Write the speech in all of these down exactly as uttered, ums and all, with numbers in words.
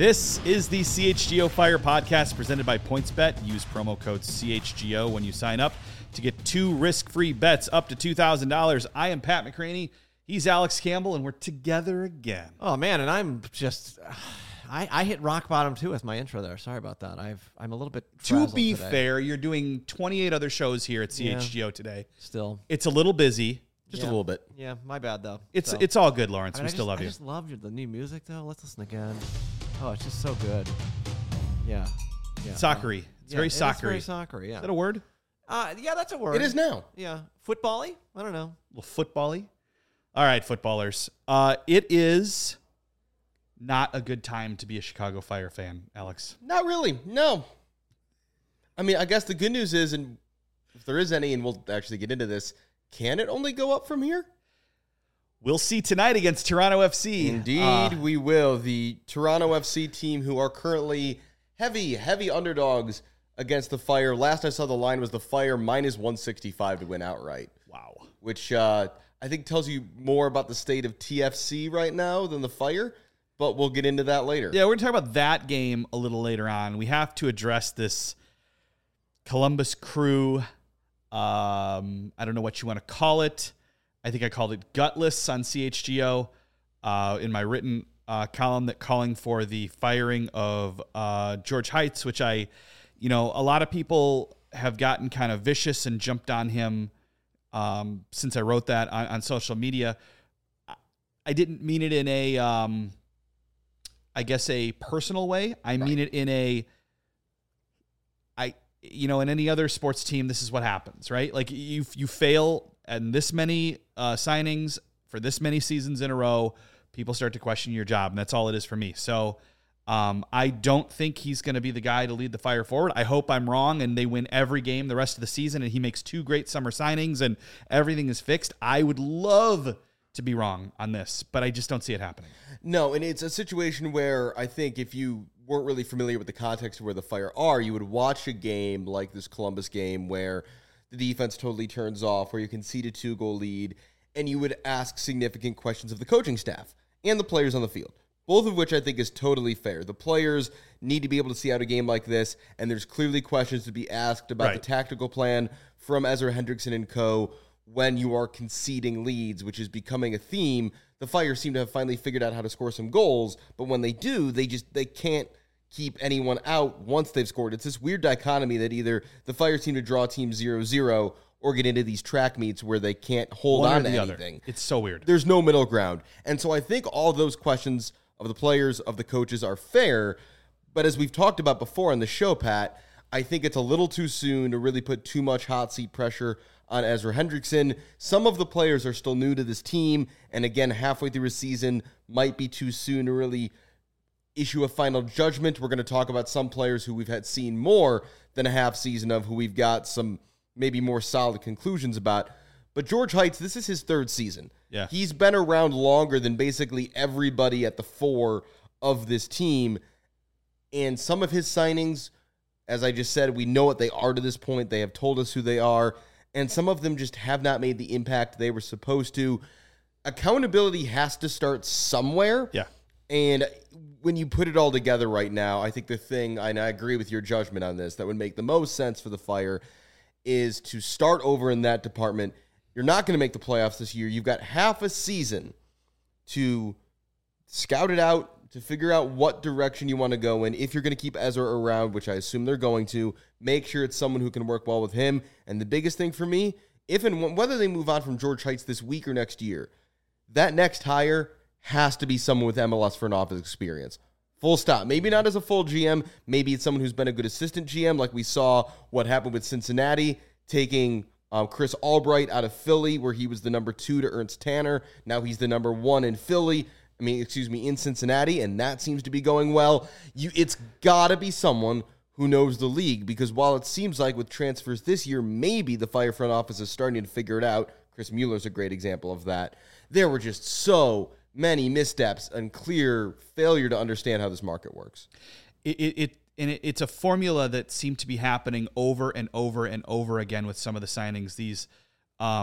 This is the C H G O Fire podcast presented by PointsBet. Use promo code C H G O when you sign up to get two risk-free bets up to two thousand dollars. I am Pat McCraney. He's Alex Campbell, and we're together again. Oh, man, and I'm just... I, I hit rock bottom, too, with my intro there. Sorry about that. I've, I'm a little bit To be today. fair, you're doing twenty-eight other shows here at C H G O Yeah. today. Still. It's a little busy. Just Yeah. a little bit. Yeah, my bad, though. It's So, it's all good, Lawrence. I mean, we I still just, love I you. just love the new music, though. Let's listen again. Oh, it's just so good. Yeah. yeah. Soccery. It's Yeah, very it is soccery. very soccery, yeah. Is that a word? Uh, yeah, that's a word. It is now. Yeah. Football-y? I don't know. A little football-y? All right, footballers. Uh, it is not a good time to be a Chicago Fire fan, Alex. Not really. No. I mean, I guess the good news is, and if there is any, and we'll actually get into this, can it only go up from here? We'll see tonight against Toronto F C. Indeed, Uh, we will. The Toronto F C team, who are currently heavy, heavy underdogs against the Fire. Last I saw, the line was the Fire minus one sixty-five to win outright. wow. Which uh, I think tells you more about the state of T F C right now than the Fire, but we'll get into that later. Yeah, we're going to talk about that game a little later on. We have to address this Columbus Crew. Um, I don't know what you want to call it. I think I called it gutless on C H G O uh, in my written uh, column that calling for the firing of uh, George Heitz, which I, you know, a lot of people have gotten kind of vicious and jumped on him um, since I wrote that on, on social media. I didn't mean it in a, um, I guess, a personal way. I mean it in a, I, you know, in any other sports team, this is what happens, right? Like you, you fail and this many uh, signings for this many seasons in a row, people start to question your job, and that's all it is for me. So um, I don't think he's going to be the guy to lead the Fire forward. I hope I'm wrong, and they win every game the rest of the season, and he makes two great summer signings, and everything is fixed. I would love to be wrong on this, but I just don't see it happening. No, and it's a situation where I think if you weren't really familiar with the context of where the Fire are, you would watch a game like this Columbus game where the defense totally turns off, where you concede a two-goal lead, and you would ask significant questions of the coaching staff and the players on the field, both of which I think is totally fair. The players need to be able to see out a game like this, and there's clearly questions to be asked about Right. the tactical plan from Ezra Hendrickson and co. when you are conceding leads, which is becoming a theme. The Fire seem to have finally figured out how to score some goals, but when they do, they just they can't keep anyone out once they've scored. It's this weird dichotomy that either the Fire seem to draw team zero zero or get into these track meets where they can't hold One or on to the anything. other. It's so weird. There's no middle ground. And so I think all those questions of the players, of the coaches are fair. But as we've talked about before on the show, Pat, I think it's a little too soon to really put too much hot seat pressure on Ezra Hendrickson. Some of the players are still new to this team. And again, halfway through a season might be too soon to really issue a final judgment. We're going to talk about some players who we've had seen more than a half season of, who we've got some maybe more solid conclusions about. But George Heitz, this is his third season. Yeah. He's been around longer than basically everybody at the fore of this team. And some of his signings, as I just said, we know what they are to this point. They have told us who they are. And some of them just have not made the impact they were supposed to. Accountability has to start somewhere. Yeah. And when you put it all together right now, I think the thing, and I agree with your judgment on this, that would make the most sense for the Fire is to start over in that department. You're not going to make the playoffs this year. You've got half a season to scout it out, to figure out what direction you want to go in. If you're going to keep Ezra around, which I assume they're going to, make sure it's someone who can work well with him. And the biggest thing for me, if and when, whether they move on from George Heitz this week or next year, that next hire has to be someone with M L S front office experience. Full stop. Maybe not as a full G M. Maybe it's someone who's been a good assistant G M, like we saw what happened with Cincinnati, taking um, Chris Albright out of Philly, where he was the number two to Ernst Tanner. Now he's the number one in Philly. I mean, excuse me, in Cincinnati, and that seems to be going well. You, it's got to be someone who knows the league, because while it seems like with transfers this year, maybe the Fire front office is starting to figure it out. Chris Mueller's a great example of that. There were just so many missteps and clear failure to understand how this market works. It, it, it and it, it's a formula that seemed to be happening over and over and over again with some of the signings. These um,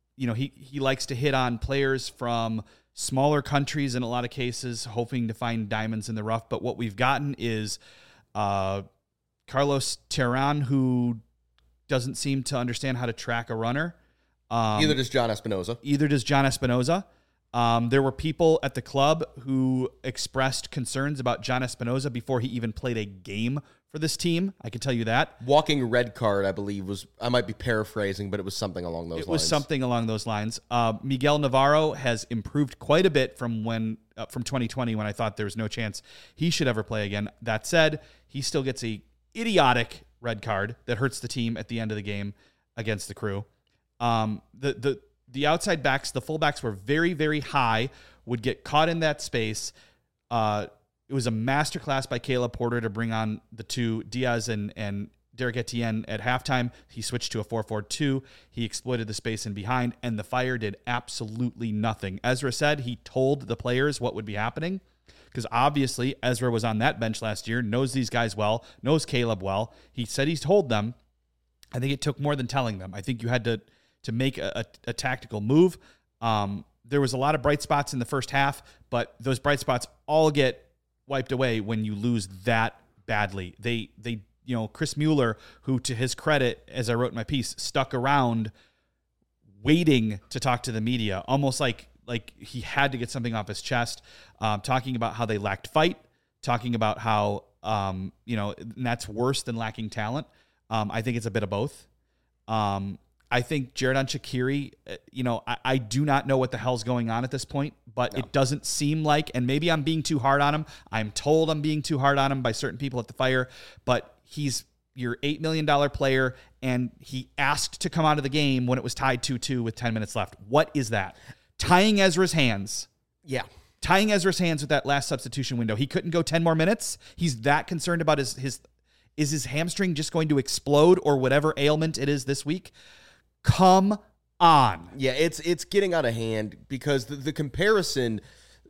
you know, he, he likes to hit on players from smaller countries in a lot of cases, hoping to find diamonds in the rough. But what we've gotten is uh, Carlos Terran, who doesn't seem to understand how to track a runner. Um, Either does John Espinoza. Either does John Espinoza. Um, there were people at the club who expressed concerns about John Espinoza before he even played a game for this team. I can tell you that. Walking red card, I believe, was, I might be paraphrasing, but it was something along those it lines. It was something along those lines. Uh, Miguel Navarro has improved quite a bit from when uh, from twenty twenty, when I thought there was no chance he should ever play again. That said, he still gets a idiotic red card that hurts the team at the end of the game against the Crew. Um, the the The outside backs, the fullbacks were very, very high, would get caught in that space. Uh, it was a masterclass by Caleb Porter to bring on the two, Diaz and, and Derek Etienne at halftime. He switched to a four four two. He exploited the space in behind, and the Fire did absolutely nothing. Ezra said he told the players what would be happening, because obviously Ezra was on that bench last year, knows these guys well, knows Caleb well. He said he's told them. I think it took more than telling them. I think you had to... to make a, a, a tactical move. Um, there was a lot of bright spots in the first half, but those bright spots all get wiped away when you lose that badly. They, they, you know, Chris Mueller, who to his credit, as I wrote in my piece, stuck around waiting to talk to the media, almost like, like he had to get something off his chest, um, talking about how they lacked fight, talking about how, um, you know, and that's worse than lacking talent. Um, I think it's a bit of both. Um, I think Xherdan Shaqiri, you know, I, I do not know what the hell's going on at this point, but no. It doesn't seem like, and maybe I'm being too hard on him. I'm told I'm being too hard on him by certain people at the Fire, but he's your eight million dollars player, and he asked to come out of the game when it was tied two two with ten minutes left. What is that? Tying Ezra's hands. Yeah. Tying Ezra's hands with that last substitution window. He couldn't go ten more minutes. He's that concerned about his, his, is his hamstring just going to explode or whatever ailment it is this week? Come on. Yeah, it's it's getting out of hand, because the, the comparison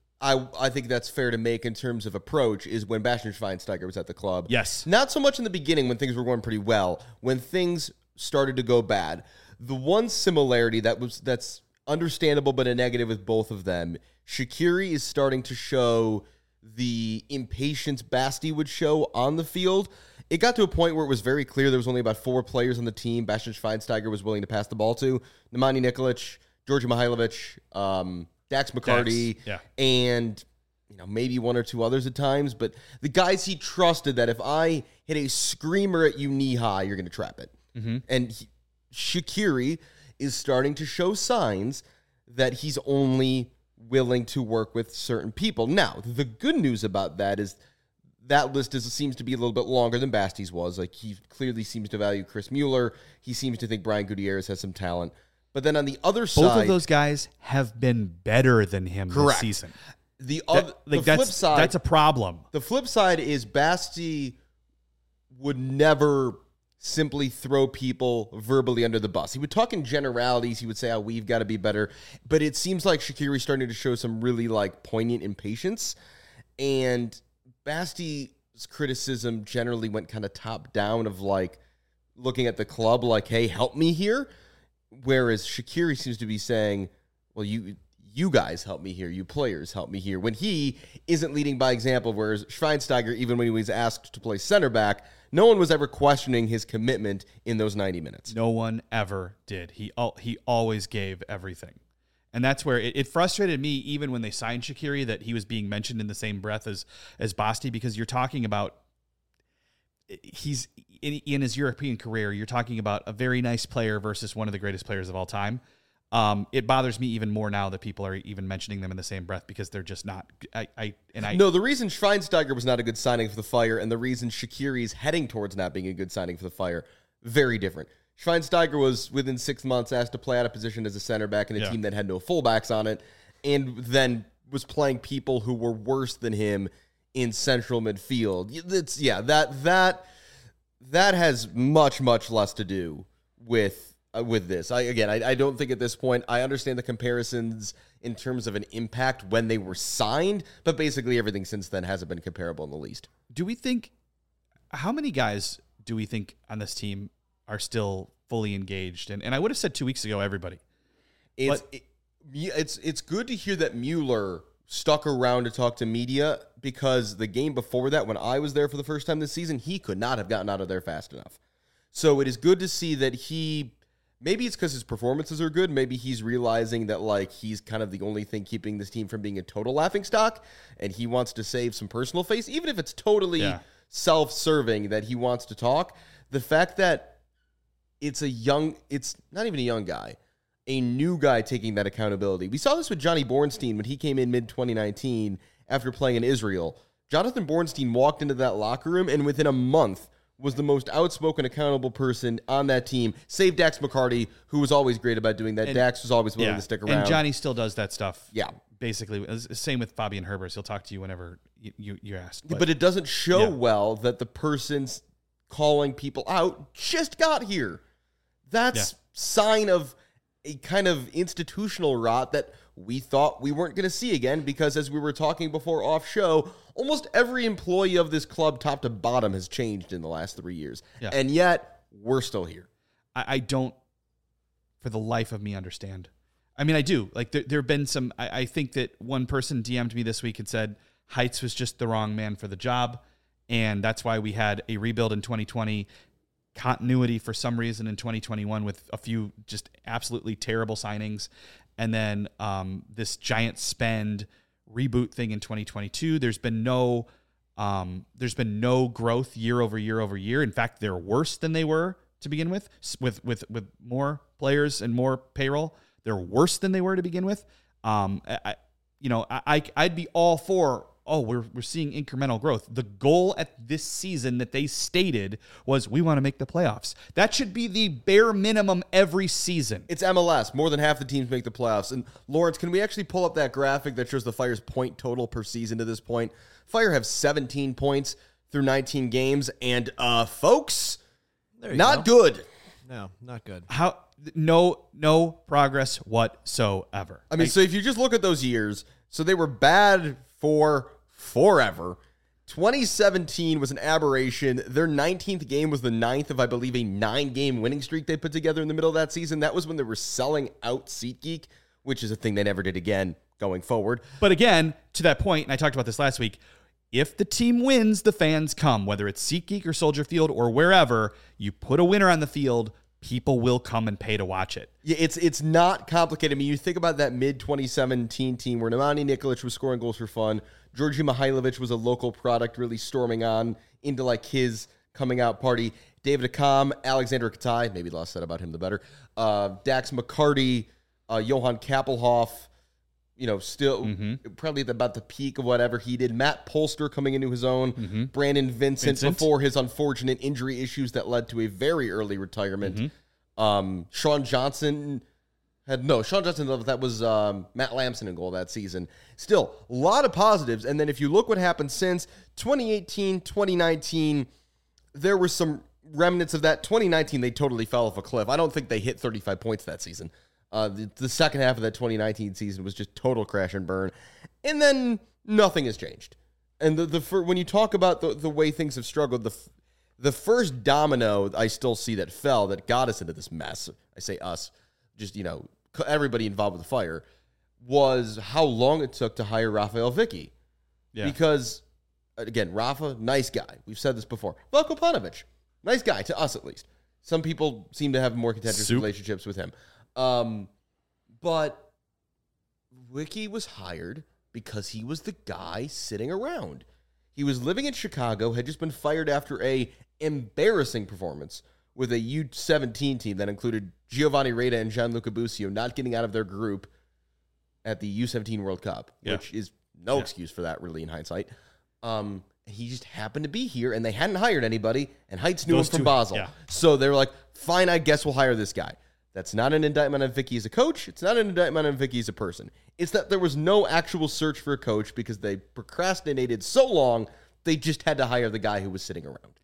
I I think that's fair to make in terms of approach is when Bastian Schweinsteiger was at the club. Yes. Not so much in the beginning when things were going pretty well, when things started to go bad. The one similarity that was that's understandable but a negative with both of them, Shaqiri is starting to show the impatience Basti would show on the field. It got to a point where it was very clear there was only about four players on the team Bastian Schweinsteiger was willing to pass the ball to. Nemanja Nikolic, Georgi Mihailovic, um, Dax McCarty, Dax, yeah. and you know maybe one or two others at times. But the guys he trusted that if I hit a screamer at you knee high, you're going to trap it. Mm-hmm. And he, Shaqiri is starting to show signs that he's only willing to work with certain people. Now, the good news about that is that list is, seems to be a little bit longer than Basti's was. Like, he clearly seems to value Chris Mueller. He seems to think Brian Gutierrez has some talent. But then on the other Both side... Both of those guys have been better than him correct. this season. The, other, that, like the that's, flip side... That's a problem. The flip side is Basti would never simply throw people verbally under the bus. He would talk in generalities. He would say, oh, we've got to be better. But it seems like Shaqiri's starting to show some really, like, poignant impatience. And Basti's criticism generally went kind of top down of, like, looking at the club like, hey, help me here. Whereas Shaqiri seems to be saying, well, you you guys help me here. You players help me here. When he isn't leading by example, whereas Schweinsteiger, even when he was asked to play center back, no one was ever questioning his commitment in those ninety minutes. No one ever did. He he always gave everything. And that's where it, it frustrated me, even when they signed Shaqiri, that he was being mentioned in the same breath as, as Basti, because you're talking about, he's in, in his European career, you're talking about a very nice player versus one of the greatest players of all time. Um, it bothers me even more now that people are even mentioning them in the same breath, because they're just not. I, I and I no. The reason Schweinsteiger was not a good signing for the Fire, and the reason Shaqiri is heading towards not being a good signing for the Fire, very different. Schweinsteiger was within six months asked to play out of position as a center back in a yeah. team that had no fullbacks on it, and then was playing people who were worse than him in central midfield. It's yeah that that that has much much less to do with. Uh, with this. I again, I, I don't think at this point, I understand the comparisons in terms of an impact when they were signed, but basically everything since then hasn't been comparable in the least. Do we think, how many guys do we think on this team are still fully engaged? And, and I would have said two weeks ago, everybody. It's But- it, it's it's good to hear that Mueller stuck around to talk to media, because the game before that, when I was there for the first time this season, he could not have gotten out of there fast enough. So it is good to see that he, maybe it's because his performances are good. Maybe he's realizing that like he's kind of the only thing keeping this team from being a total laughingstock, and he wants to save some personal face, even if it's totally Yeah. self-serving that he wants to talk. The fact that it's a young, it's not even a young guy, a new guy taking that accountability. We saw this with Johnny Bornstein when he came in mid twenty nineteen after playing in Israel. Jonathan Bornstein walked into that locker room and within a month was the most outspoken, accountable person on that team, save Dax McCarty, who was always great about doing that. And- Dax was always willing Yeah. to stick around. And Johnny still does that stuff. Yeah. Basically, same with Fabian Herbers. He'll talk to you whenever you, you, you ask. But, it doesn't show Yeah. well that the person's calling people out just got here. That's Yeah. sign of a kind of institutional rot that we thought we weren't going to see again, because as we were talking before off show, almost every employee of this club, top to bottom, has changed in the last three years. Yeah. And yet, we're still here. I, I don't, for the life of me, understand. I mean, I do. Like, there, there have been some. I, I think that one person D M'd me this week and said Heights was just the wrong man for the job, and that's why we had a rebuild in twenty twenty, continuity for some reason in twenty twenty-one with a few just absolutely terrible signings, and then um, this giant spend reboot thing in twenty twenty-two. There's been no, um, there's been no growth year over year over year. In fact, they're worse than they were to begin with, with with with more players and more payroll. They're worse than they were to begin with. Um, I, you know, I, I'd be all for, oh, we're we're seeing incremental growth. The goal at this season that they stated was we want to make the playoffs. That should be the bare minimum every season. It's M L S. More than half the teams make the playoffs. And Lawrence, can we actually pull up that graphic that shows the Fire's point total per season to this point? Fire have seventeen points through nineteen games. And, uh, folks, There you not go. good. No, not good. How no no progress whatsoever. I mean, so if you just look at those years, so they were bad for forever. twenty seventeen was an aberration. Their nineteenth game was the ninth of, I believe, a nine-game winning streak they put together in the middle of that season. That was when they were selling out SeatGeek, which is a thing they never did again going forward. But again, to that point, and I talked about this last week, if the team wins, the fans come, whether it's SeatGeek or Soldier Field or wherever, you put a winner on the field, people will come and pay to watch it. Yeah, it's it's not complicated. I mean, you think about that mid twenty seventeen team where Nemanja Nikolic was scoring goals for fun. Georgi Mihailovic was a local product, really storming on into like his coming out party. David Akam, Alexander Katai, maybe the less said about him, the better. Uh, Dax McCarty, uh, Johan Kappelhoff, you know, still Mm-hmm. probably at about the peak of whatever he did. Matt Polster coming into his own. Mm-hmm. Brandon Vincent, Vincent. before his unfortunate injury issues that led to a very early retirement. Mm-hmm. Um, Sean Johnson had no Sean Johnson. That was um, Matt Lamson in goal that season. Still, a lot of positives. And then if you look what happened since twenty eighteen, twenty nineteen, there were some remnants of that. twenty nineteen, they totally fell off a cliff. I don't think they hit thirty-five points that season. Uh, the, the second half of that twenty nineteen season was just total crash and burn. And then nothing has changed. And the, the when you talk about the, the way things have struggled, the the first domino I still see that fell that got us into this mess, I say us, just, you know, everybody involved with the Fire, was how long it took to hire Rafael Vicky. Yeah. Because, again, Rafa, nice guy. We've said this before. Veljko Paunovic, nice guy, to us at least. Some people seem to have more contentious Soup. relationships with him. Um, but Vicky was hired because he was the guy sitting around. He was living in Chicago, had just been fired after a embarrassing performance with a U seventeen team that included Giovanni Reda and Gianluca Busio not getting out of their group at the U seventeen World Cup, Yeah. which is no Yeah. excuse for that, really, in hindsight. Um, he just happened to be here, and they hadn't hired anybody, and Heights knew Those him from two- Basel. yeah. So they were like, fine, I guess we'll hire this guy. That's not an indictment on Vicky as a coach. It's not an indictment on Vicky as a person. It's that there was no actual search for a coach because they procrastinated so long, they just had to hire the guy who was sitting around.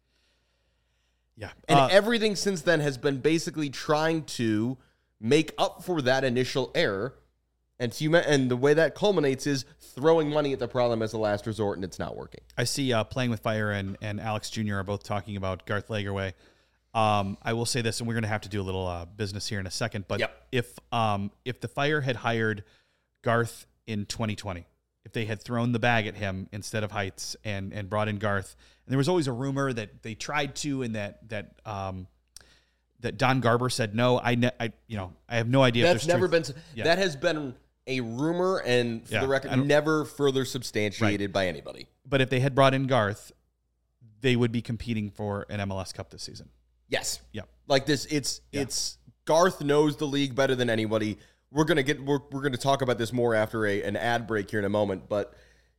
Yeah. And Uh, everything since then has been basically trying to make up for that initial error. And, to, and the way that culminates is throwing money at the problem as a last resort, and it's not working. I see uh, Playing with Fire and, and Alex Junior are both talking about Garth Lagerwey. Um, I will say this, and we're going to have to do a little uh, business here in a second. But Yep. if um, if the Fire had hired Garth in twenty twenty, if they had thrown the bag at him instead of Heights and and brought in Garth, and there was always a rumor that they tried to, and that that um, that Don Garber said no. I, ne- I you know I have no idea. That's if there's never truth. been. Yeah. That has been a rumor, and for Yeah, the I record, don't- never further substantiated by anybody. But if they had brought in Garth, they would be competing for an M L S Cup this season. Yes. Yeah. Like this, it's Yeah. it's Garth knows the league better than anybody. We're gonna get we're we're gonna talk about this more after a an ad break here in a moment. But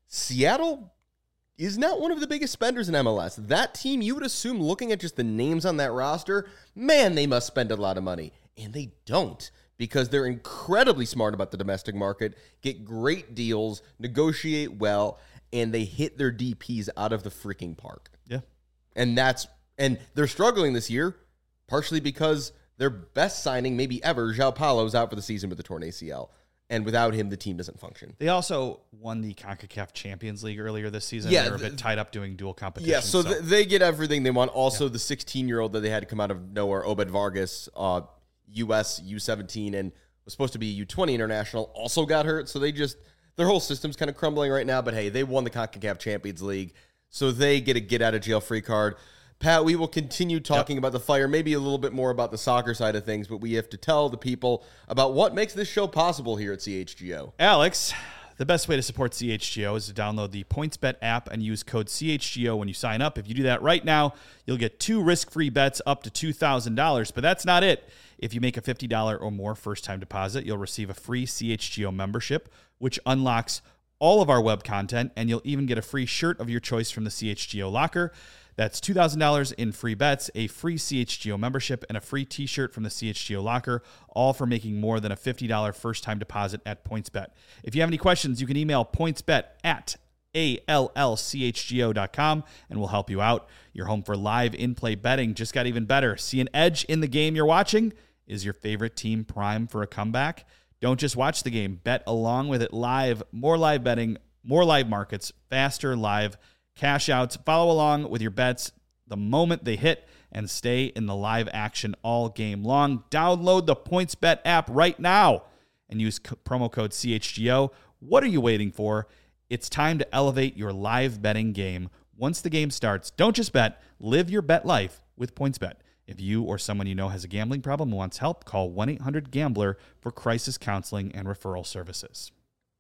Seattle is not one of the biggest spenders in M L S. That team, you would assume, looking at just the names on that roster, man, they must spend a lot of money, and they don't, because they're incredibly smart about the domestic market, get great deals, negotiate well, and they hit their D Ps out of the freaking park. Yeah. And that's and they're struggling this year, partially because their best signing, maybe ever, João Paulo's out for the season with a torn A C L. And without him, the team doesn't function. They also won the CONCACAF Champions League earlier this season. Yeah, They're a th- bit tied up doing dual competition. Yeah, so, th- they get everything they want. Also, the sixteen-year-old that they had to come out of nowhere, Obed Vargas, uh, U S U seventeen, and was supposed to be a U twenty international, also got hurt. So they just, their whole system's kind of crumbling right now. But hey, they won the CONCACAF Champions League, so they get a get-out-of-jail-free card. Pat, we will continue talking yep. about the Fire, maybe a little bit more about the soccer side of things, but we have to tell the people about what makes this show possible here at C H G O. Alex, the best way to support C H G O is to download the PointsBet app and use code C H G O when you sign up. If you do that right now, you'll get two risk-free bets up to two thousand dollars, but that's not it. If you make a fifty dollars or more first-time deposit, you'll receive a free C H G O membership, which unlocks all of our web content, and you'll even get a free shirt of your choice from the C H G O locker. That's two thousand dollars in free bets, a free C H G O membership, and a free t-shirt from the C H G O locker, all for making more than a fifty dollars first-time deposit at PointsBet. If you have any questions, you can email pointsbet at A L L C H G O dot com, and we'll help you out. Your home for live in-play betting just got even better. See an edge in the game you're watching? Is your favorite team primed for a comeback? Don't just watch the game. Bet along with it live. More live betting, more live markets, faster live cash outs. Follow along with your bets the moment they hit and stay in the live action all game long. Download the PointsBet app right now and use co- promo code C H G O. What are you waiting for? It's time to elevate your live betting game. Once the game starts, don't just bet. Live your bet life with PointsBet. If you or someone you know has a gambling problem and wants help, call one eight hundred gambler for crisis counseling and referral services.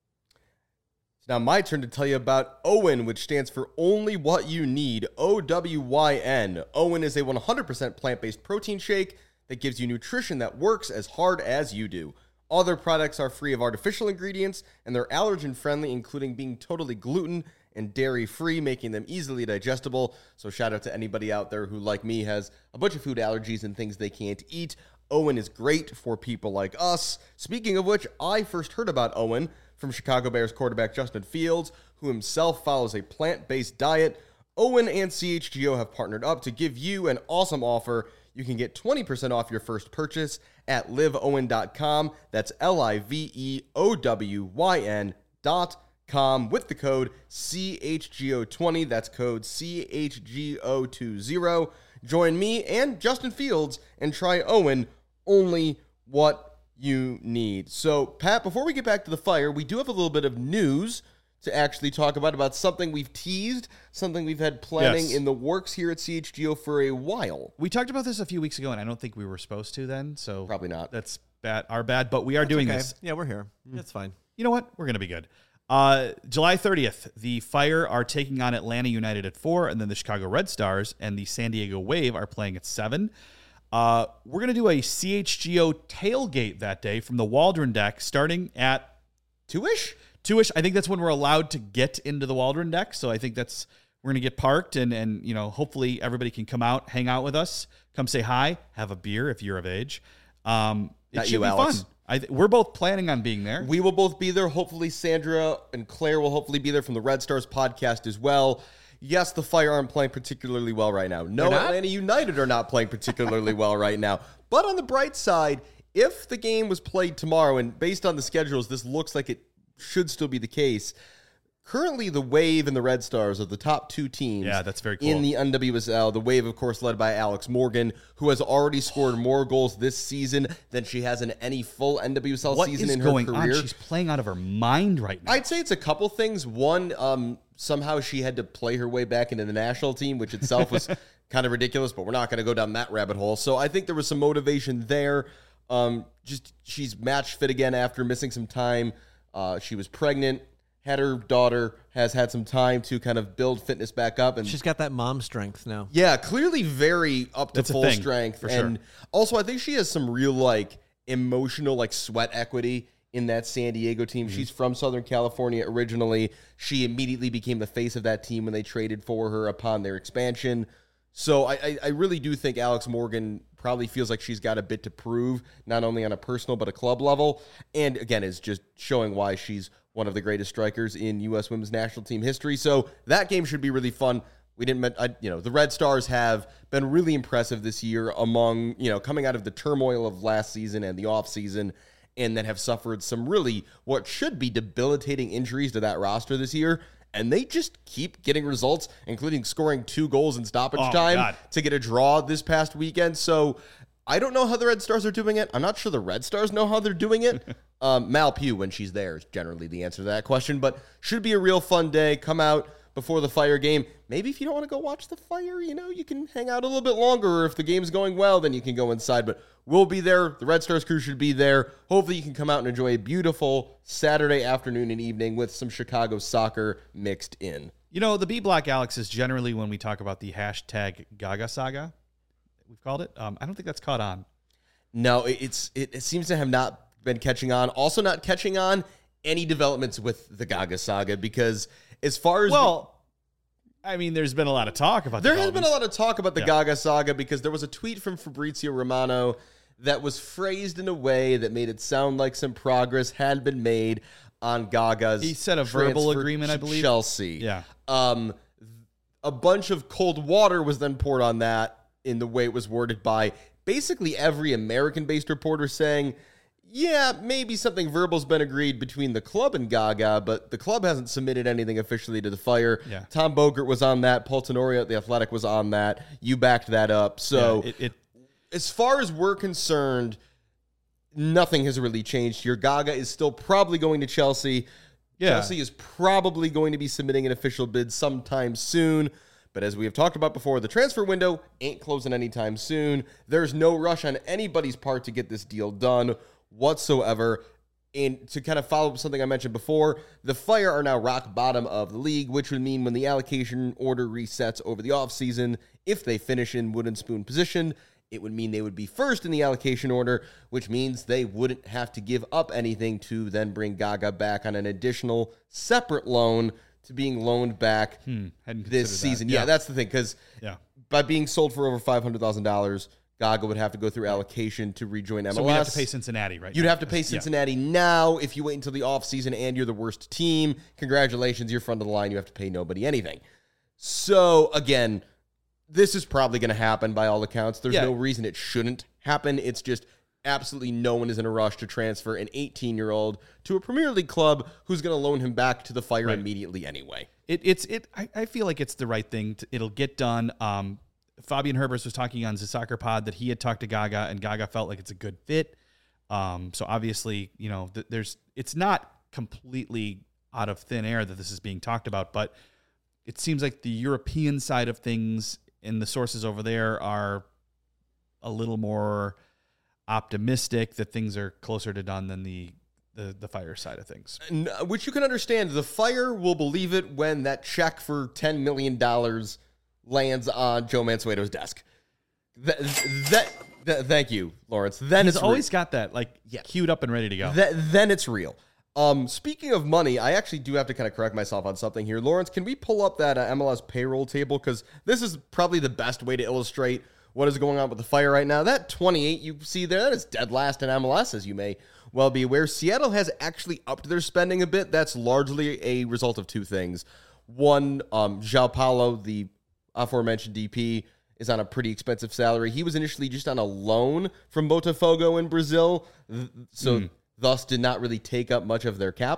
Now my turn to tell you about OWYN, which stands for Only What You Need, O W Y N. OWYN is a one hundred percent plant-based protein shake that gives you nutrition that works as hard as you do. All their products are free of artificial ingredients, and they're allergen-friendly, including being totally gluten and dairy-free, making them easily digestible. So shout out to anybody out there who, like me, has a bunch of food allergies and things they can't eat. OWYN is great for people like us. Speaking of which, I first heard about OWYN from Chicago Bears quarterback Justin Fields, who himself follows a plant-based diet. OWYN and C H G O have partnered up to give you an awesome offer. You can get twenty percent off your first purchase at live owyn dot com. That's L I V E O W Y N dot com with the code C H G O twenty. That's code C H G O twenty. Join me and Justin Fields and try OWYN, only what you need. So, Pat, before we get back to the Fire, we do have a little bit of news to actually talk about, about something we've teased, something we've had planning Yes. in the works here at C H G O for a while. We talked about this a few weeks ago, and I don't think we were supposed to then, so Probably not. That's bad, our bad, but we are doing Okay. this. Yeah, we're here. It's fine. You know what? We're going to be good. Uh, July thirtieth, the Fire are taking on Atlanta United at four, and then the Chicago Red Stars and the San Diego Wave are playing at seven. Uh, we're going to do a C H G O tailgate that day from the Waldron deck starting at Two-ish? two-ish. I think that's when we're allowed to get into the Waldron deck, so I think that's we're going to get parked, and, and you know, hopefully everybody can come out, hang out with us, come say hi, have a beer if you're of age. Um, it Not should you, be Alex. fun. I th- we're both planning on being there. We will both be there. Hopefully, Sandra and Claire will hopefully be there from the Red Stars podcast as well. Yes, the Fire aren't playing particularly well right now. No, They're not? Atlanta United are not playing particularly well right now. But on the bright side, if the game was played tomorrow, and based on the schedules, this looks like it should still be the case, currently the Wave and the Red Stars are the top two teams. Yeah, that's very cool. In the N W S L, the Wave, of course, led by Alex Morgan, who has already scored more goals this season than she has in any full N W S L What season is in her going career. on? She's playing out of her mind right now. I'd say it's a couple things. One, um, somehow she had to play her way back into the national team, which itself was kind of ridiculous, but we're not going to go down that rabbit hole. So I think there was some motivation there. Um, just she's match fit again after missing some time. Uh, she was pregnant, had her daughter, has had some time to kind of build fitness back up. And She's got that mom strength now. yeah, clearly very up to That's a full thing, strength. for And sure. also, I think she has some real, like, emotional, like, sweat equity in that San Diego team. Mm-hmm. She's from Southern California originally. She immediately became the face of that team when they traded for her upon their expansion. So I, I, I really do think Alex Morgan probably feels like she's got a bit to prove, not only on a personal but a club level. And again, is just showing why she's one of the greatest strikers in U S women's national team history. So that game should be really fun. We didn't, men- I, you know, the Red Stars have been really impressive this year among, you know, coming out of the turmoil of last season and the offseason, and then have suffered some really what should be debilitating injuries to that roster this year. And they just keep getting results, including scoring two goals in stoppage Oh, my time God. to get a draw this past weekend. So I don't know how the Red Stars are doing it. I'm not sure the Red Stars know how they're doing it. um, Mal Pugh, when she's there, is generally the answer to that question. But should be a real fun day. Come out before the Fire game. Maybe if you don't want to go watch the Fire, you know, you can hang out a little bit longer. Or if the game's going well, then you can go inside. But we'll be there. The Red Stars crew should be there. Hopefully you can come out and enjoy a beautiful Saturday afternoon and evening with some Chicago soccer mixed in. You know, the B Block, Alex, is generally when we talk about the hashtag Gaga Saga, we've called it. Um, I don't think that's caught on. No, it- it's it, it seems to have not been catching on. Also not catching on any developments with the Gaga saga, because as far as Well, I mean, there's been a lot of talk about there has been a lot of talk about the Yeah. Gaga saga, because there was a tweet from Fabrizio Romano that was phrased in a way that made it sound like some progress had been made on Gaga's He said a verbal transfer agreement, I to believe. Chelsea. Yeah. Um, a bunch of cold water was then poured on that in the way it was worded by basically every American-based reporter, saying, yeah, maybe something verbal's been agreed between the club and Gaga, but the club hasn't submitted anything officially to the Fire. Yeah. Tom Bogert was on that. Paul Tenorio at The Athletic was on that. You backed that up. So Yeah, it, it as far as we're concerned, nothing has really changed here. Gaga is still probably going to Chelsea. Yeah. Chelsea is probably going to be submitting an official bid sometime soon. But as we have talked about before, the transfer window ain't closing anytime soon. There's no rush on anybody's part to get this deal done whatsoever. And to kind of follow up something I mentioned before, the Fire are now rock bottom of the league, which would mean when the allocation order resets over the offseason, if they finish in wooden spoon position, it would mean they would be first in the allocation order, which means they wouldn't have to give up anything to then bring Gaga back on an additional separate loan to being loaned back hmm, hadn't this considered that. season. Yeah, that's the thing, because yeah. by being sold for over five hundred thousand dollars, Gaga would have to go through allocation to rejoin M L S. So we have to pay Cincinnati, right? You'd now. have to pay Yeah. Cincinnati now. If you wait until the offseason and you're the worst team, congratulations, you're front of the line. You have to pay nobody anything. So, again, this is probably going to happen by all accounts. There's Yeah. no reason it shouldn't happen. It's just absolutely no one is in a rush to transfer an eighteen-year-old to a Premier League club who's going to loan him back to the Fire Right. immediately anyway. It, it's it. I, I feel like it's the right thing. To, it'll get done. Um, Fabian Herbers was talking on the Soccer Pod that he had talked to Gaga, and Gaga felt like it's a good fit. Um, so obviously, you know, th- there's it's not completely out of thin air that this is being talked about, but it seems like the European side of things and the sources over there are a little more optimistic that things are closer to done than the the, the Fire side of things. N- Which you can understand. The Fire will believe it when that check for ten million dollars lands on Joe Mansueto's desk. That, that, that- thank you, Lawrence. Then He's it's always got that like Yeah. queued up and ready to go. re- that, then it's real. Um, speaking of money, I actually do have to kind of correct myself on something here. Lawrence, can we pull up that uh, M L S payroll table? Because this is probably the best way to illustrate what is going on with the Fire right now. That twenty-eight you see there, that is dead last in M L S, as you may well be aware. Seattle has actually upped their spending a bit. That's largely a result of two things. One, um, João Paulo, the aforementioned D P, is on a pretty expensive salary. He was initially just on a loan from Botafogo in Brazil, th- so Mm. thus did not really take up much of their cap.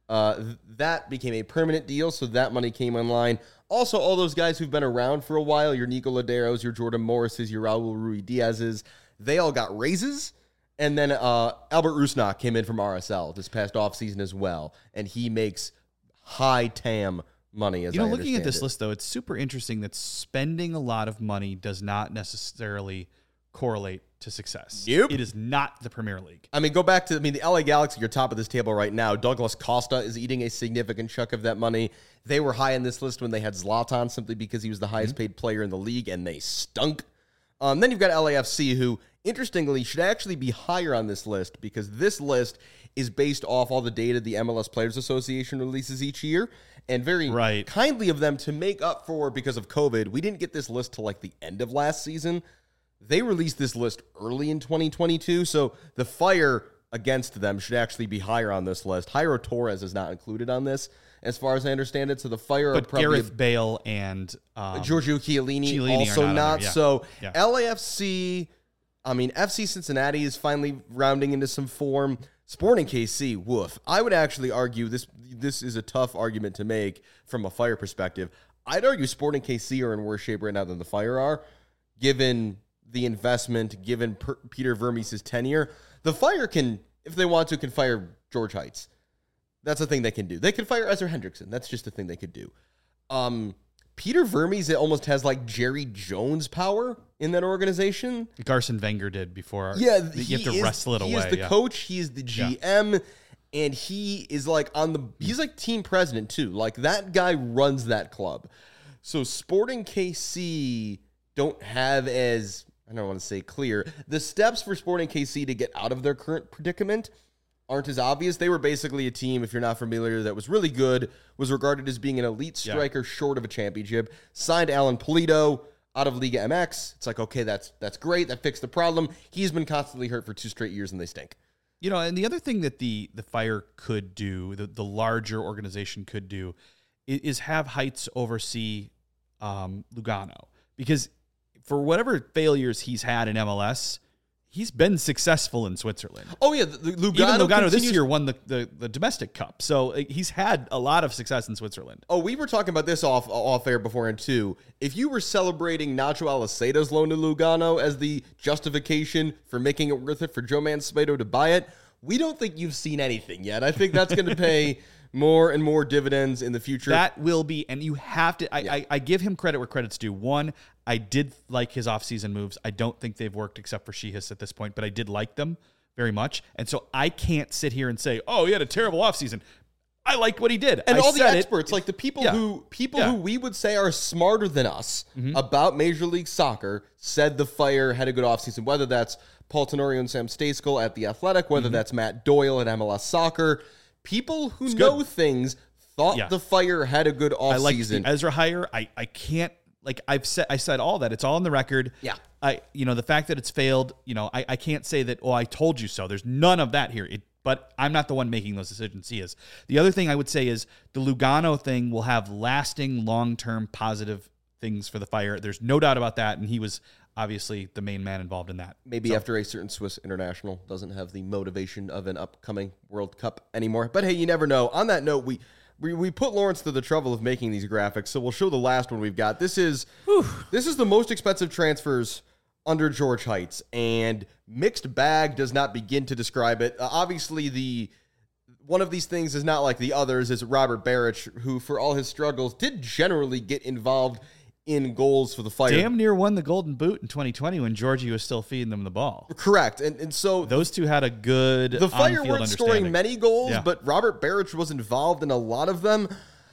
Uh, th- that became a permanent deal, so that money came online. Also, all those guys who've been around for a while, your Nico Laderos, your Jordan Morrises, your Raul Rui Diaz's, they all got raises. And then uh, Albert Rusnak came in from R S L this past offseason as well, and he makes high T A M money, as You know, I looking at this understand it. list, though, it's super interesting that spending a lot of money does not necessarily correlate to success. Nope. It is not the Premier League. I mean, go back to, I mean, the L A Galaxy are top of this table right now. Douglas Costa is eating a significant chunk of that money. They were high in this list when they had Zlatan simply because he was the highest paid player in the league, and they stunk. Um, then you've got L A F C, who, interestingly, should actually be higher on this list because this list is based off all the data the M L S Players Association releases each year. And very Right. kindly of them to make up for, because of COVID, we didn't get this list till like the end of last season. They released this list early in twenty twenty-two, so the fire against them should actually be higher on this list. Jairo Torres is not included on this, as far as I understand it. So the fire are But probably Gareth Bale and um, Giorgio Chiellini, Chiellini are also not on not. there, yeah. So Yeah. L A F C, I mean, F C Cincinnati is finally rounding into some form. Sporting K C, woof. I would actually argue this. This is a tough argument to make from a fire perspective. I'd argue Sporting K C are in worse shape right now than the Fire are, given the investment, given per, Peter Vermes' tenure. The Fire can, if they want to, can fire George Heights. That's a thing they can do. They could fire Ezra Hendrickson. That's just a thing they could do. Um, Peter Vermes, it almost has like Jerry Jones power in that organization. Garson Wenger did before. Yeah, you he have to is, wrestle it he away. is the yeah. coach. He is the G M, and he is like on the. He's like team president too. Like that guy runs that club. So Sporting K C don't have as, I don't want to say clear, the steps for Sporting K C to get out of their current predicament aren't as obvious. They were basically a team, if you're not familiar, that was really good, was regarded as being an elite striker yeah. short of a championship. Signed Alan Polito out of Liga M X. It's like, okay, that's that's great. That fixed the problem. He's been constantly hurt for two straight years, and they stink. You know, and the other thing that the the Fire could do, the, the larger organization could do, is, is have Heights oversee um, Lugano. Because for whatever failures he's had in M L S, he's been successful in Switzerland. Oh, yeah. The, the Lugano, Even Lugano continues- this year won the, the, the domestic cup. So uh, he's had a lot of success in Switzerland. Oh, we were talking about this off off air beforehand, too. If you were celebrating Nacho Alaceda's loan to Lugano as the justification for making it worth it for Joe Manspedo to buy it, we don't think you've seen anything yet. I think that's going to pay more and more dividends in the future. That will be, and you have to, I, Yeah. I, I give him credit where credit's due. One, I did like his offseason moves. I don't think they've worked except for Shihis at this point, but I did like them very much. And so I can't sit here and say, oh, he had a terrible offseason. I liked what he did. And I all the said it. experts, like the people Yeah. who people Yeah. who we would say are smarter than us Mm-hmm. about Major League Soccer, said the Fire had a good offseason, whether that's Paul Tenorio and Sam Stejskal at The Athletic, whether Mm-hmm. that's Matt Doyle at M L S Soccer. People who know good. things thought Yeah. the Fire had a good I like the offseason. Ezra hire. I, I can't, like I've said, I said all that. It's all on the record. Yeah. I, you know, the fact that it's failed, you know, I, I can't say that, oh, I told you so. There's none of that here. It, but I'm not the one making those decisions. He is. The other thing I would say is the Lugano thing will have lasting, long-term positive things for the Fire. There's no doubt about that. And he was obviously the main man involved in that. Maybe So- after a certain Swiss international doesn't have the motivation of an upcoming World Cup anymore. But hey, you never know. On that note, we we, we put Lawrence to the trouble of making these graphics, so we'll show the last one we've got. This is this is the most expensive transfers under George Heights, and mixed bag does not begin to describe it. Uh, obviously, the one of these things is not like the others. Is Robert Barrich, who for all his struggles did generally get involved in goals for the Fire. Damn near won the Golden Boot in twenty twenty when Georgie was still feeding them the ball. Correct, and and so Those two had a good the Fire on-field weren't scoring understanding. many goals, Yeah. but Robert Barrich was involved in a lot of them.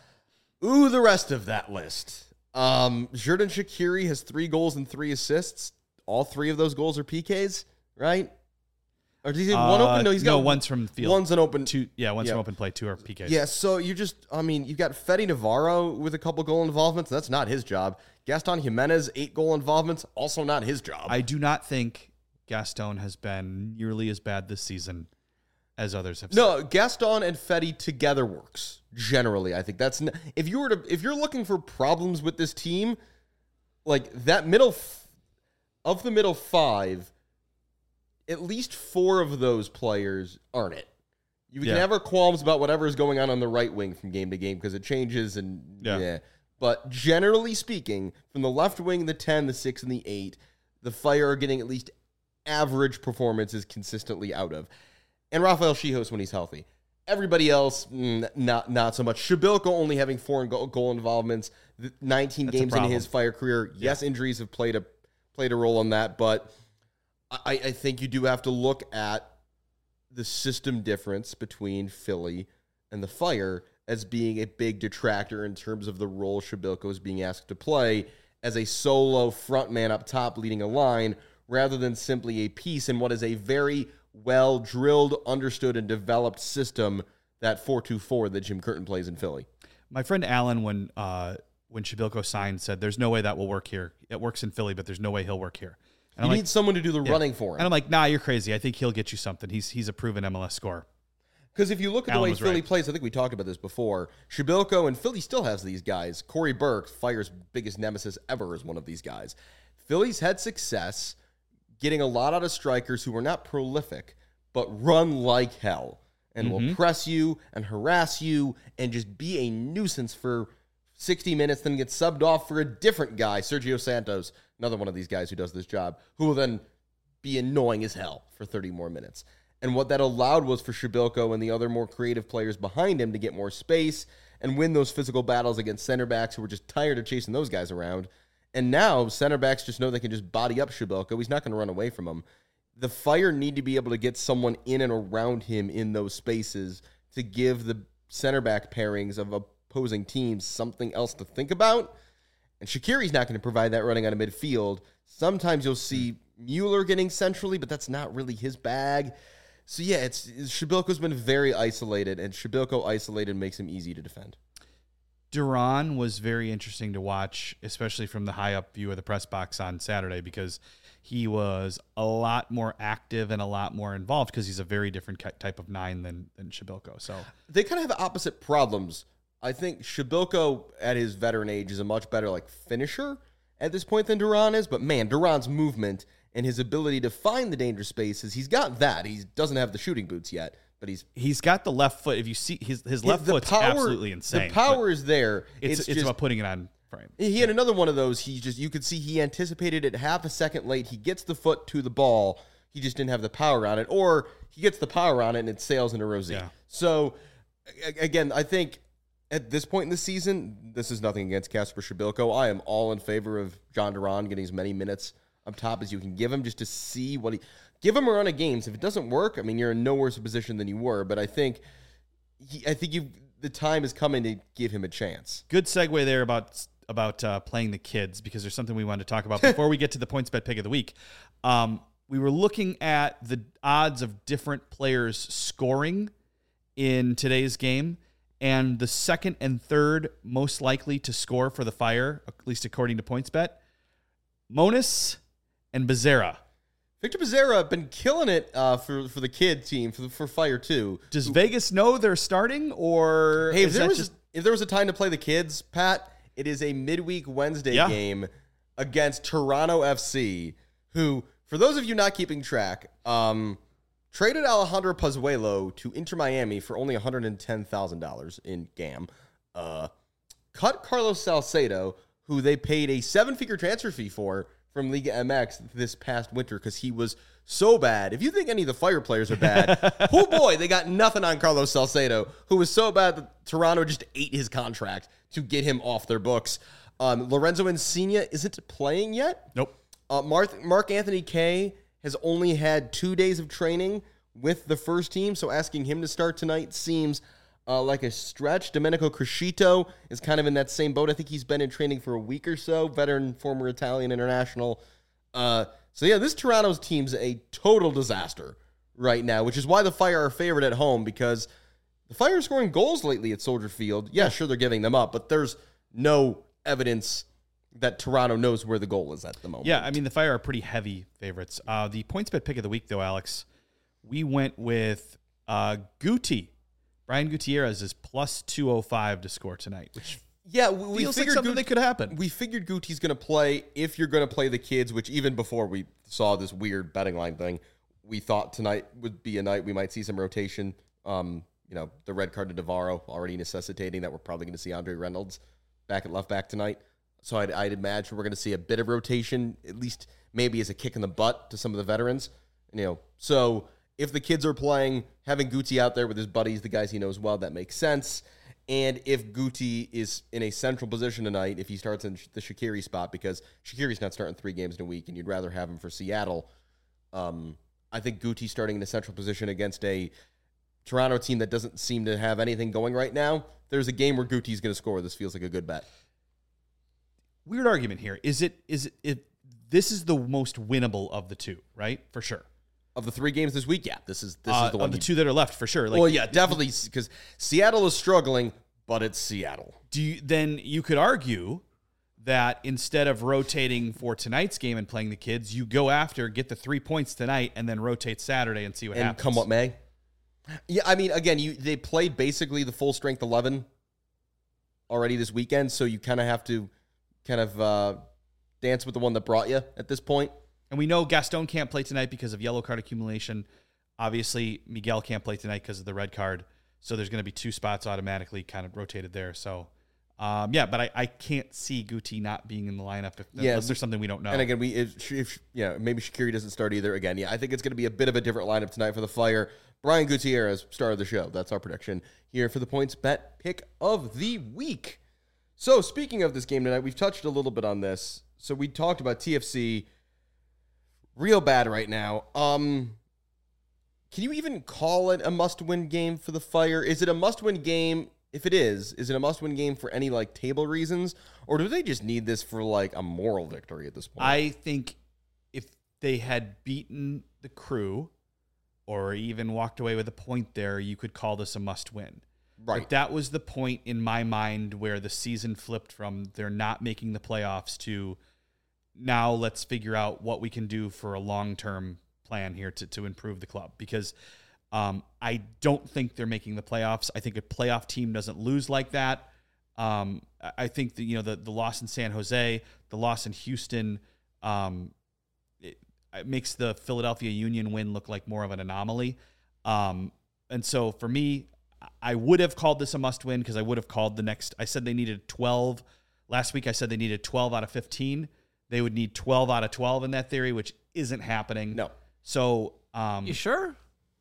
Ooh, the rest of that list. Um, Xherdan Shaqiri has three goals and three assists. All three of those goals are P Ks, right? Or does he have one Uh, open? No, he's got no, one's from the field. One's an open. Two, yeah, one's Yeah. from open play. Two are P Ks. Yeah, so you just, I mean, you've got Fede Navarro with a couple goal involvements. That's not his job. Gaston Jimenez, eight goal involvements. Also not his job. I do not think Gaston has been nearly as bad this season as others have. No, Gaston and Fetty together works. Generally, I think that's n- if you were to if you're looking for problems with this team, like that middle f- of the middle five, at least four of those players aren't it. You Yeah. can have our qualms about whatever is going on on the right wing from game to game because it changes and Yeah. yeah. But generally speaking, from the left wing, the ten, the six, and the eight, the Fire are getting at least average performances consistently out of. And Rafael Schihos when he's healthy. Everybody else, mm, not not so much. Shabilko only having four goal, goal involvements, the nineteen That's a games in problem. his Fire career. Yes, injuries have played a played a role in that, but I, I think you do have to look at the system difference between Philly and the Fire as being a big detractor in terms of the role Shabilko is being asked to play as a solo frontman up top leading a line rather than simply a piece in what is a very well-drilled, understood, and developed system, that four two four that Jim Curtin plays in Philly. My friend Alan, when uh, when Shabilko signed, said, there's no way that will work here. It works in Philly, but there's no way he'll work here. And You I'm need like, someone to do the yeah. running for him. And I'm like, nah, you're crazy. I think he'll get you something. He's he's a proven M L S scorer. Because if you look at the Alan way was Philly right. plays, I think we talked about this before. Shabilko, and Philly still has these guys. Corey Burke, Fire's biggest nemesis ever, is one of these guys. Philly's had success getting a lot out of strikers who are not prolific, but run like hell and will press you and harass you and just be a nuisance for sixty minutes, then get subbed off for a different guy, Sergio Santos, another one of these guys who does this job, who will then be annoying as hell for thirty more minutes. And what that allowed was for Shabilko and the other more creative players behind him to get more space and win those physical battles against center backs who were just tired of chasing those guys around. And now center backs just know they can just body up Shabilko. He's not going to run away from them. The Fire need to be able to get someone in and around him in those spaces to give the center back pairings of opposing teams something else to think about. And Shaqiri's not going to provide that running out of midfield. Sometimes you'll see Mueller getting centrally, but that's not really his bag. So yeah, it's, it's Shabilko's been very isolated, and Shabilko isolated makes him easy to defend. Duran was very interesting to watch, especially from the high up view of the press box on Saturday, because he was a lot more active and a lot more involved because he's a very different ki- type of nine than than Shabilko. So They kind of have opposite problems. I think Shabilko at his veteran age is a much better like finisher at this point than Duran is, but man, Duran's movement and his ability to find the danger spaces, he's got that. He doesn't have the shooting boots yet, but he's he's got the left foot. If you see his his left the foot's power- absolutely insane. The power but is there. It's It's, it's, just, about putting it on frame. he had another one of those. He just you could see he anticipated it half a second late. He gets the foot to the ball. He just didn't have the power on it, or he gets the power on it and it sails into Rosie. Yeah. So a- again, I think at this point in the season, this is nothing against Kasper Shabilko. I am all in favor of John Duran getting as many minutes up top as you can give him, just to see what he give him a run of games. If it doesn't work, I mean, you're in no worse a position than you were. But I think he, I think you the time is coming to give him a chance. Good segue there about about uh, playing the kids, because there's something we wanted to talk about before we get to the points bet pick of the week. Um, we were looking at the odds of different players scoring in today's game, and the second and third most likely to score for the Fire, at least according to PointsBet, Monis and Becerra. Victor Becerra been killing it uh, for for the kid team for the, for Fire too. Does Vegas know they're starting, or Hey, if is there that was just if there was a time to play the kids, Pat, it is a midweek Wednesday Yeah. game against Toronto F C, who, for those of you not keeping track, um, traded Alejandro Pozuelo to Inter Miami for only one hundred ten thousand dollars in G A M. Uh, cut Carlos Salcedo, who they paid a seven-figure transfer fee for from Liga M X this past winter because he was so bad. If you think any of the Fire players are bad, oh boy, they got nothing on Carlos Salcedo, who was so bad that Toronto just ate his contract to get him off their books. Um, Lorenzo Insigne isn't playing yet. nope? Uh, Mark, Mark Anthony Kaye has only had two days of training with the first team, so asking him to start tonight seems uh, like a stretch. Domenico Crescito is kind of in that same boat. I think he's been in training for a week or so, veteran, former Italian international. Uh, so, yeah, this Toronto's team's a total disaster right now, which is why the Fire are favored at home, because the Fire are scoring goals lately at Soldier Field. Yeah, sure, they're giving them up, but there's no evidence that Toronto knows where the goal is at the moment. Yeah, I mean, the Fire are pretty heavy favorites. Uh, the points bet pick of the week, though, Alex, we went with uh, Guti. Brian Gutierrez is plus two oh five to score tonight, which Yeah, we, we feels like figured something Gut- that could happen. We figured Guti's going to play if you're going to play the kids, which even before we saw this weird betting line thing, we thought tonight would be a night we might see some rotation Um, you know, the red card to Navarro already necessitating that we're probably going to see Andre Reynolds back at left back tonight. So I'd, I'd imagine we're going to see a bit of rotation, at least maybe as a kick in the butt to some of the veterans. You know, so if the kids are playing, having Guti out there with his buddies, the guys he knows well, that makes sense. And if Guti is in a central position tonight, if he starts in the Shaqiri spot, because Shaqiri's not starting three games in a week, and you'd rather have him for Seattle, um, I think Guti starting in a central position against a Toronto team that doesn't seem to have anything going right now, there's a game where Guti's going to score. This feels like a good bet. Weird argument here. Is it? Is it? If this is the most winnable of the two, right? For sure. Of the three games this week, yeah, this is this Uh, is the one. of the you- two that are left, for sure. Like, well, yeah, definitely, because Seattle is struggling, but it's Seattle. do you, then you could argue that instead of rotating for tonight's game and playing the kids, you go after, get the three points tonight, and then rotate Saturday and see what And happens. come what may. Yeah, I mean, again, you they played basically the full strength eleven already this weekend, so you kind of have to kind of uh, dance with the one that brought you at this point. And we know Gaston can't play tonight because of yellow card accumulation. Obviously, Miguel can't play tonight because of the red card. So there's going to be two spots automatically kind of rotated there. So, um, yeah, but I, I can't see Guti not being in the lineup if, Yeah, unless there's something we don't know. And again, we if, if yeah, maybe Shaqiri doesn't start either. Again, yeah, I think it's going to be a bit of a different lineup tonight for the Fire. Brian Gutierrez, star of the show. That's our prediction here for the points bet pick of the week. So speaking of this game tonight, we've touched a little bit on this. So we talked about T F C real bad right now. Um, can you even call it a must-win game for the Fire? Is it a must-win game? If it is, is it a must-win game for any like table reasons, or do they just need this for like a moral victory at this point? I think if they had beaten the Crew or even walked away with a point there, you could call this a must-win. Right. But that was the point in my mind where the season flipped from they're not making the playoffs to now let's figure out what we can do for a long-term plan here to, to improve the club. Because um, I don't think they're making the playoffs. I think a playoff team doesn't lose like that. Um, I think that, you know, the, the loss in San Jose, the loss in Houston, um, it, it makes the Philadelphia Union win look like more of an anomaly. Um, and so for me, I would have called this a must win because I would have called the next. I said they needed twelve. Last week I said they needed twelve out of fifteen. They would need twelve out of twelve in that theory, which isn't happening. No. So, um, You sure?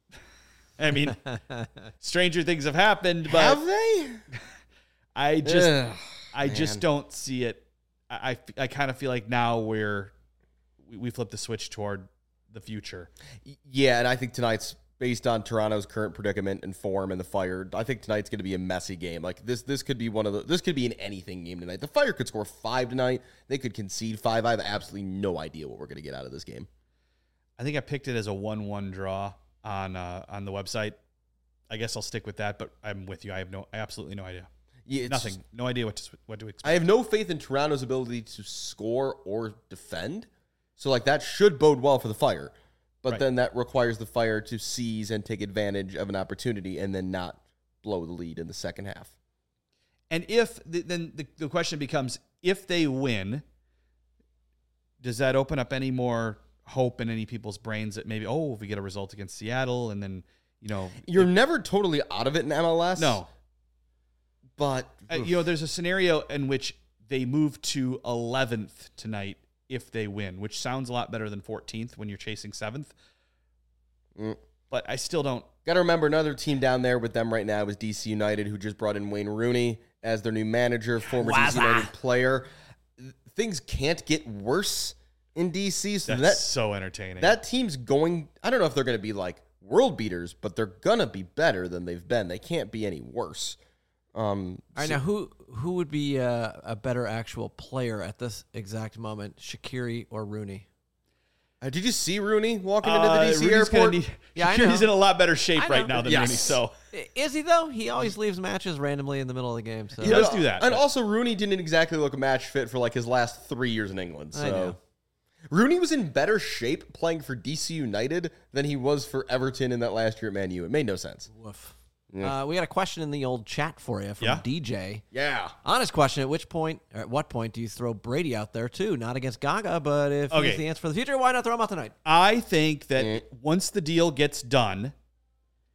I mean, stranger things have happened, but Have they? I just, Ugh, I just man. don't see it. I, I, I kind of feel like now we're, we, we flip the switch toward the future. Yeah, and I think tonight's based on Toronto's current predicament and form and the Fire. I think tonight's going to be a messy game. Like this, this could be one of the. This could be an anything game tonight. The Fire could score five tonight. They could concede five. I have absolutely no idea what we're going to get out of this game. I think I picked it as a one-one draw on uh, on the website. I guess I'll stick with that, but I'm with you. I have no, I absolutely no idea. Yeah, it's, Nothing. No idea what to what to expect. I have no faith in Toronto's ability to score or defend. So like that should bode well for the Fire. But Right. then that requires the Fire to seize and take advantage of an opportunity and then not blow the lead in the second half. And if the, then the, the question becomes, if they win, does that open up any more hope in any people's brains that maybe, oh, if we get a result against Seattle and then, you know, You're never totally out of it in M L S. no, But uh, you know, there's a scenario in which they move to eleventh tonight if they win, which sounds a lot better than fourteenth when you're chasing seventh. Mm. But I still don't. got to remember another team down there with them right now is D C United, who just brought in Wayne Rooney as their new manager, former D C United player. Things can't get worse in D C. So That's that so entertaining. that team's going. I don't know if they're going to be like world beaters, but they're gonna be better than they've been. They can't be any worse. Um, All right, so- now who who would be uh, a better actual player at this exact moment, Shaqiri or Rooney? uh, did you see Rooney walking into the Uh, D C Rudy's gonna airport? Need, Yeah, I Shaqiri's know. in a lot better shape I know. right now than Yes. Rooney. So I- Is he though? He always leaves matches randomly in the middle of the game. So He does do that, And but- also, Rooney didn't exactly look a match fit for like his last three years in England. I know. So Rooney was in better shape playing for D C United than he was for Everton in that last year at Man U. It made no sense. Woof. Yeah. Uh, we got a question in the old chat for you from Yeah? D J. Yeah. Honest question: At which point, or at what point, do you throw Brady out there too? Not against Gaga, but if Okay. he's the answer for the future, why not throw him out tonight? I think that Mm. once the deal gets done,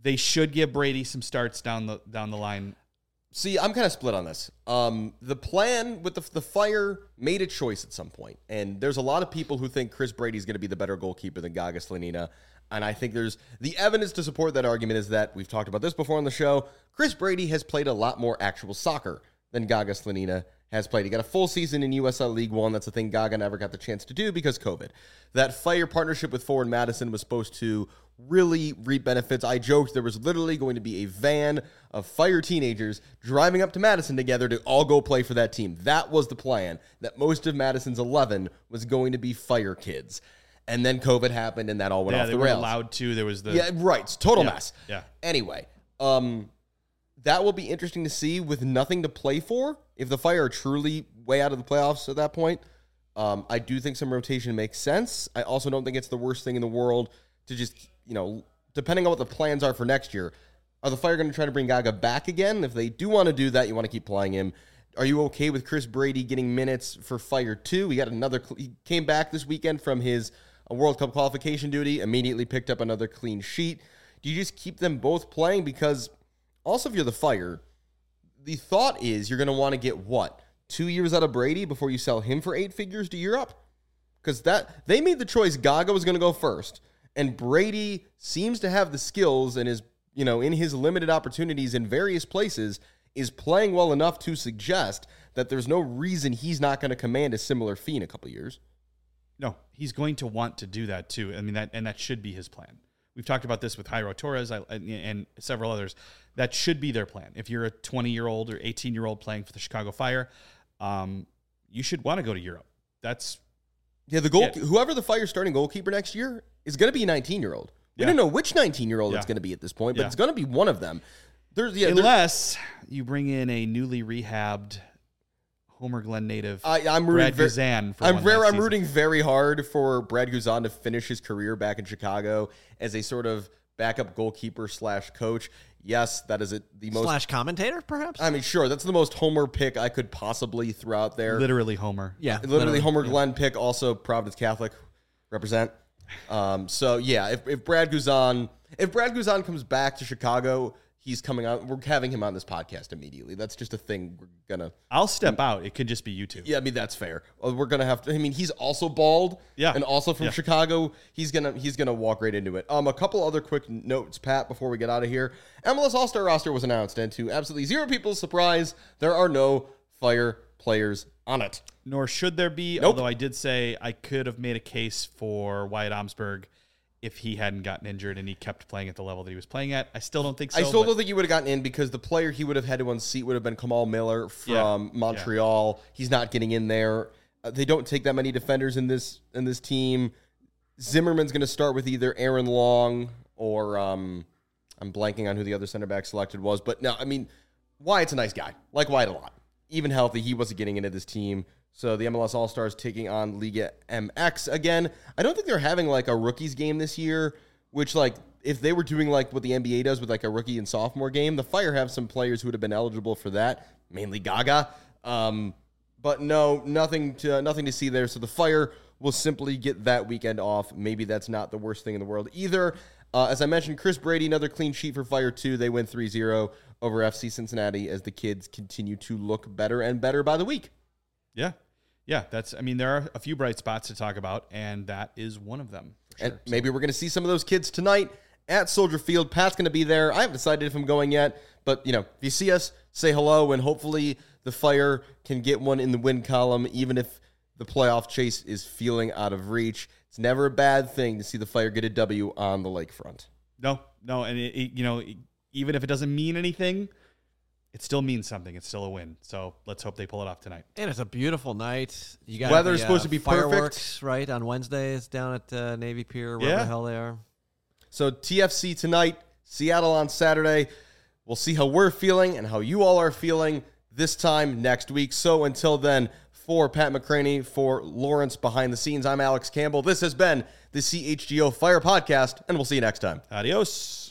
they should give Brady some starts down the down the line. See, I'm kind of split on this. Um, the plan with the, the Fire made a choice at some point, and there's a lot of people who think Chris Brady's going to be the better goalkeeper than Gaga Slonina, and I think there's the evidence to support that argument is that we've talked about this before on the show. Chris Brady has played a lot more actual soccer than Gaga Slonina has played. He got a full season in U S L League One. That's the thing Gaga never got the chance to do because COVID. That Fire partnership with Forward Madison was supposed to really reap benefits. I joked there was literally going to be a van of Fire teenagers driving up to Madison together to all go play for that team. That was the plan, that most of Madison's eleven was going to be Fire kids. And then COVID happened and that all went Yeah, off they the weren't rails. allowed to. There was the Yeah, right. It's a total Yeah, mess. yeah. Anyway, um, that will be interesting to see with nothing to play for. If the Fire are truly way out of the playoffs at that point, um, I do think some rotation makes sense. I also don't think it's the worst thing in the world to just, you know, depending on what the plans are for next year, are the Fire going to try to bring Gaga back again? If they do want to do that, you want to keep playing him. Are you okay with Chris Brady getting minutes for Fire two? He got another. He came back this weekend from his uh, World Cup qualification duty, immediately picked up another clean sheet. Do you just keep them both playing? Because also, if you're the Fire, the thought is you're going to want to get what? Two years out of Brady before you sell him for eight figures to Europe? Because that they made the choice Gaga was going to go first. And Brady seems to have the skills and is, you know, in his limited opportunities in various places, is playing well enough to suggest that there's no reason he's not going to command a similar fee in a couple of years. No, he's going to want to do that too. I mean, that and that should be his plan. We've talked about this with Jairo Torres and several others. That should be their plan. If you're a twenty-year-old or eighteen-year-old playing for the Chicago Fire, um, you should want to go to Europe. That's yeah. The goal, yeah. whoever the Fire starting goalkeeper next year is going to be a nineteen-year-old. We Yeah. don't know which nineteen-year-old Yeah. it's going to be at this point, but Yeah. it's going to be one of them. There's yeah. there's- Unless you bring in a newly rehabbed Homer Glen native, I, I'm rooting Brad very, Guzan. For I'm one very, last I'm season. rooting very hard for Brad Guzan to finish his career back in Chicago as a sort of backup goalkeeper slash coach. Yes, that is it. The most. Slash commentator, perhaps? I mean, sure, that's the most Homer pick I could possibly throw out there. Literally Homer. yeah. Literally, Homer Glenn pick. Also, Providence Catholic represent. Um, so yeah, if, if Brad Guzan, if Brad Guzan comes back to Chicago, he's coming on. We're having him on this podcast immediately. That's just a thing we're gonna. I'll step out. It could just be you two. Yeah, I mean that's fair. Uh, We're gonna have to. I mean, he's also bald. Yeah. and also from Yeah. Chicago. He's gonna he's gonna walk right into it. Um, a couple other quick notes, Pat, before we get out of here. M L S All-Star roster was announced, and to absolutely zero people's surprise, there are no Fire players on it. Nor should there be, Nope. although I did say I could have made a case for Wyatt Omsberg if he hadn't gotten injured and he kept playing at the level that he was playing at. I still don't think so. I still but- don't think he would have gotten in because the player he would have had to unseat would have been Kamal Miller from Yeah. Montreal. He's not getting in there. Uh, they don't take that many defenders in this in this team. Zimmerman's going to start with either Aaron Long or um, I'm blanking on who the other center back selected was. But no, I mean, Wyatt's a nice guy. Like Wyatt a lot. Even healthy, he wasn't getting into this team. So the M L S All-Stars taking on Liga M X again. I don't think they're having like a rookies game this year, which like if they were doing like what the N B A does with like a rookie and sophomore game, the Fire have some players who would have been eligible for that, mainly Gaga. Um, but no, nothing to nothing to see there. So the Fire will simply get that weekend off. Maybe that's not the worst thing in the world either. Uh, as I mentioned, Chris Brady, another clean sheet for Fire two. They win three zero over F C Cincinnati as the kids continue to look better and better by the week. Yeah. Yeah, that's. I mean, there are a few bright spots to talk about, and that is one of them. For And sure. maybe we're going to see some of those kids tonight at Soldier Field. Pat's going to be there. I haven't decided if I'm going yet, but you know, if you see us, say hello, and hopefully the Fire can get one in the win column, even if the playoff chase is feeling out of reach. It's never a bad thing to see the Fire get a W on the lakefront. No, no, and it, it, you know, even if it doesn't mean anything, it still means something. It's still a win. So let's hope they pull it off tonight. And it's a beautiful night. You got Weather's the, uh, supposed to be perfect. fireworks, right, on Wednesdays down at uh, Navy Pier, wherever Yeah. the hell they are. So T F C tonight, Seattle on Saturday. We'll see how we're feeling and how you all are feeling this time next week. So until then, for Pat McCraney, for Lawrence behind the scenes, I'm Alex Campbell. This has been the C H G O Fire Podcast, and we'll see you next time. Adios.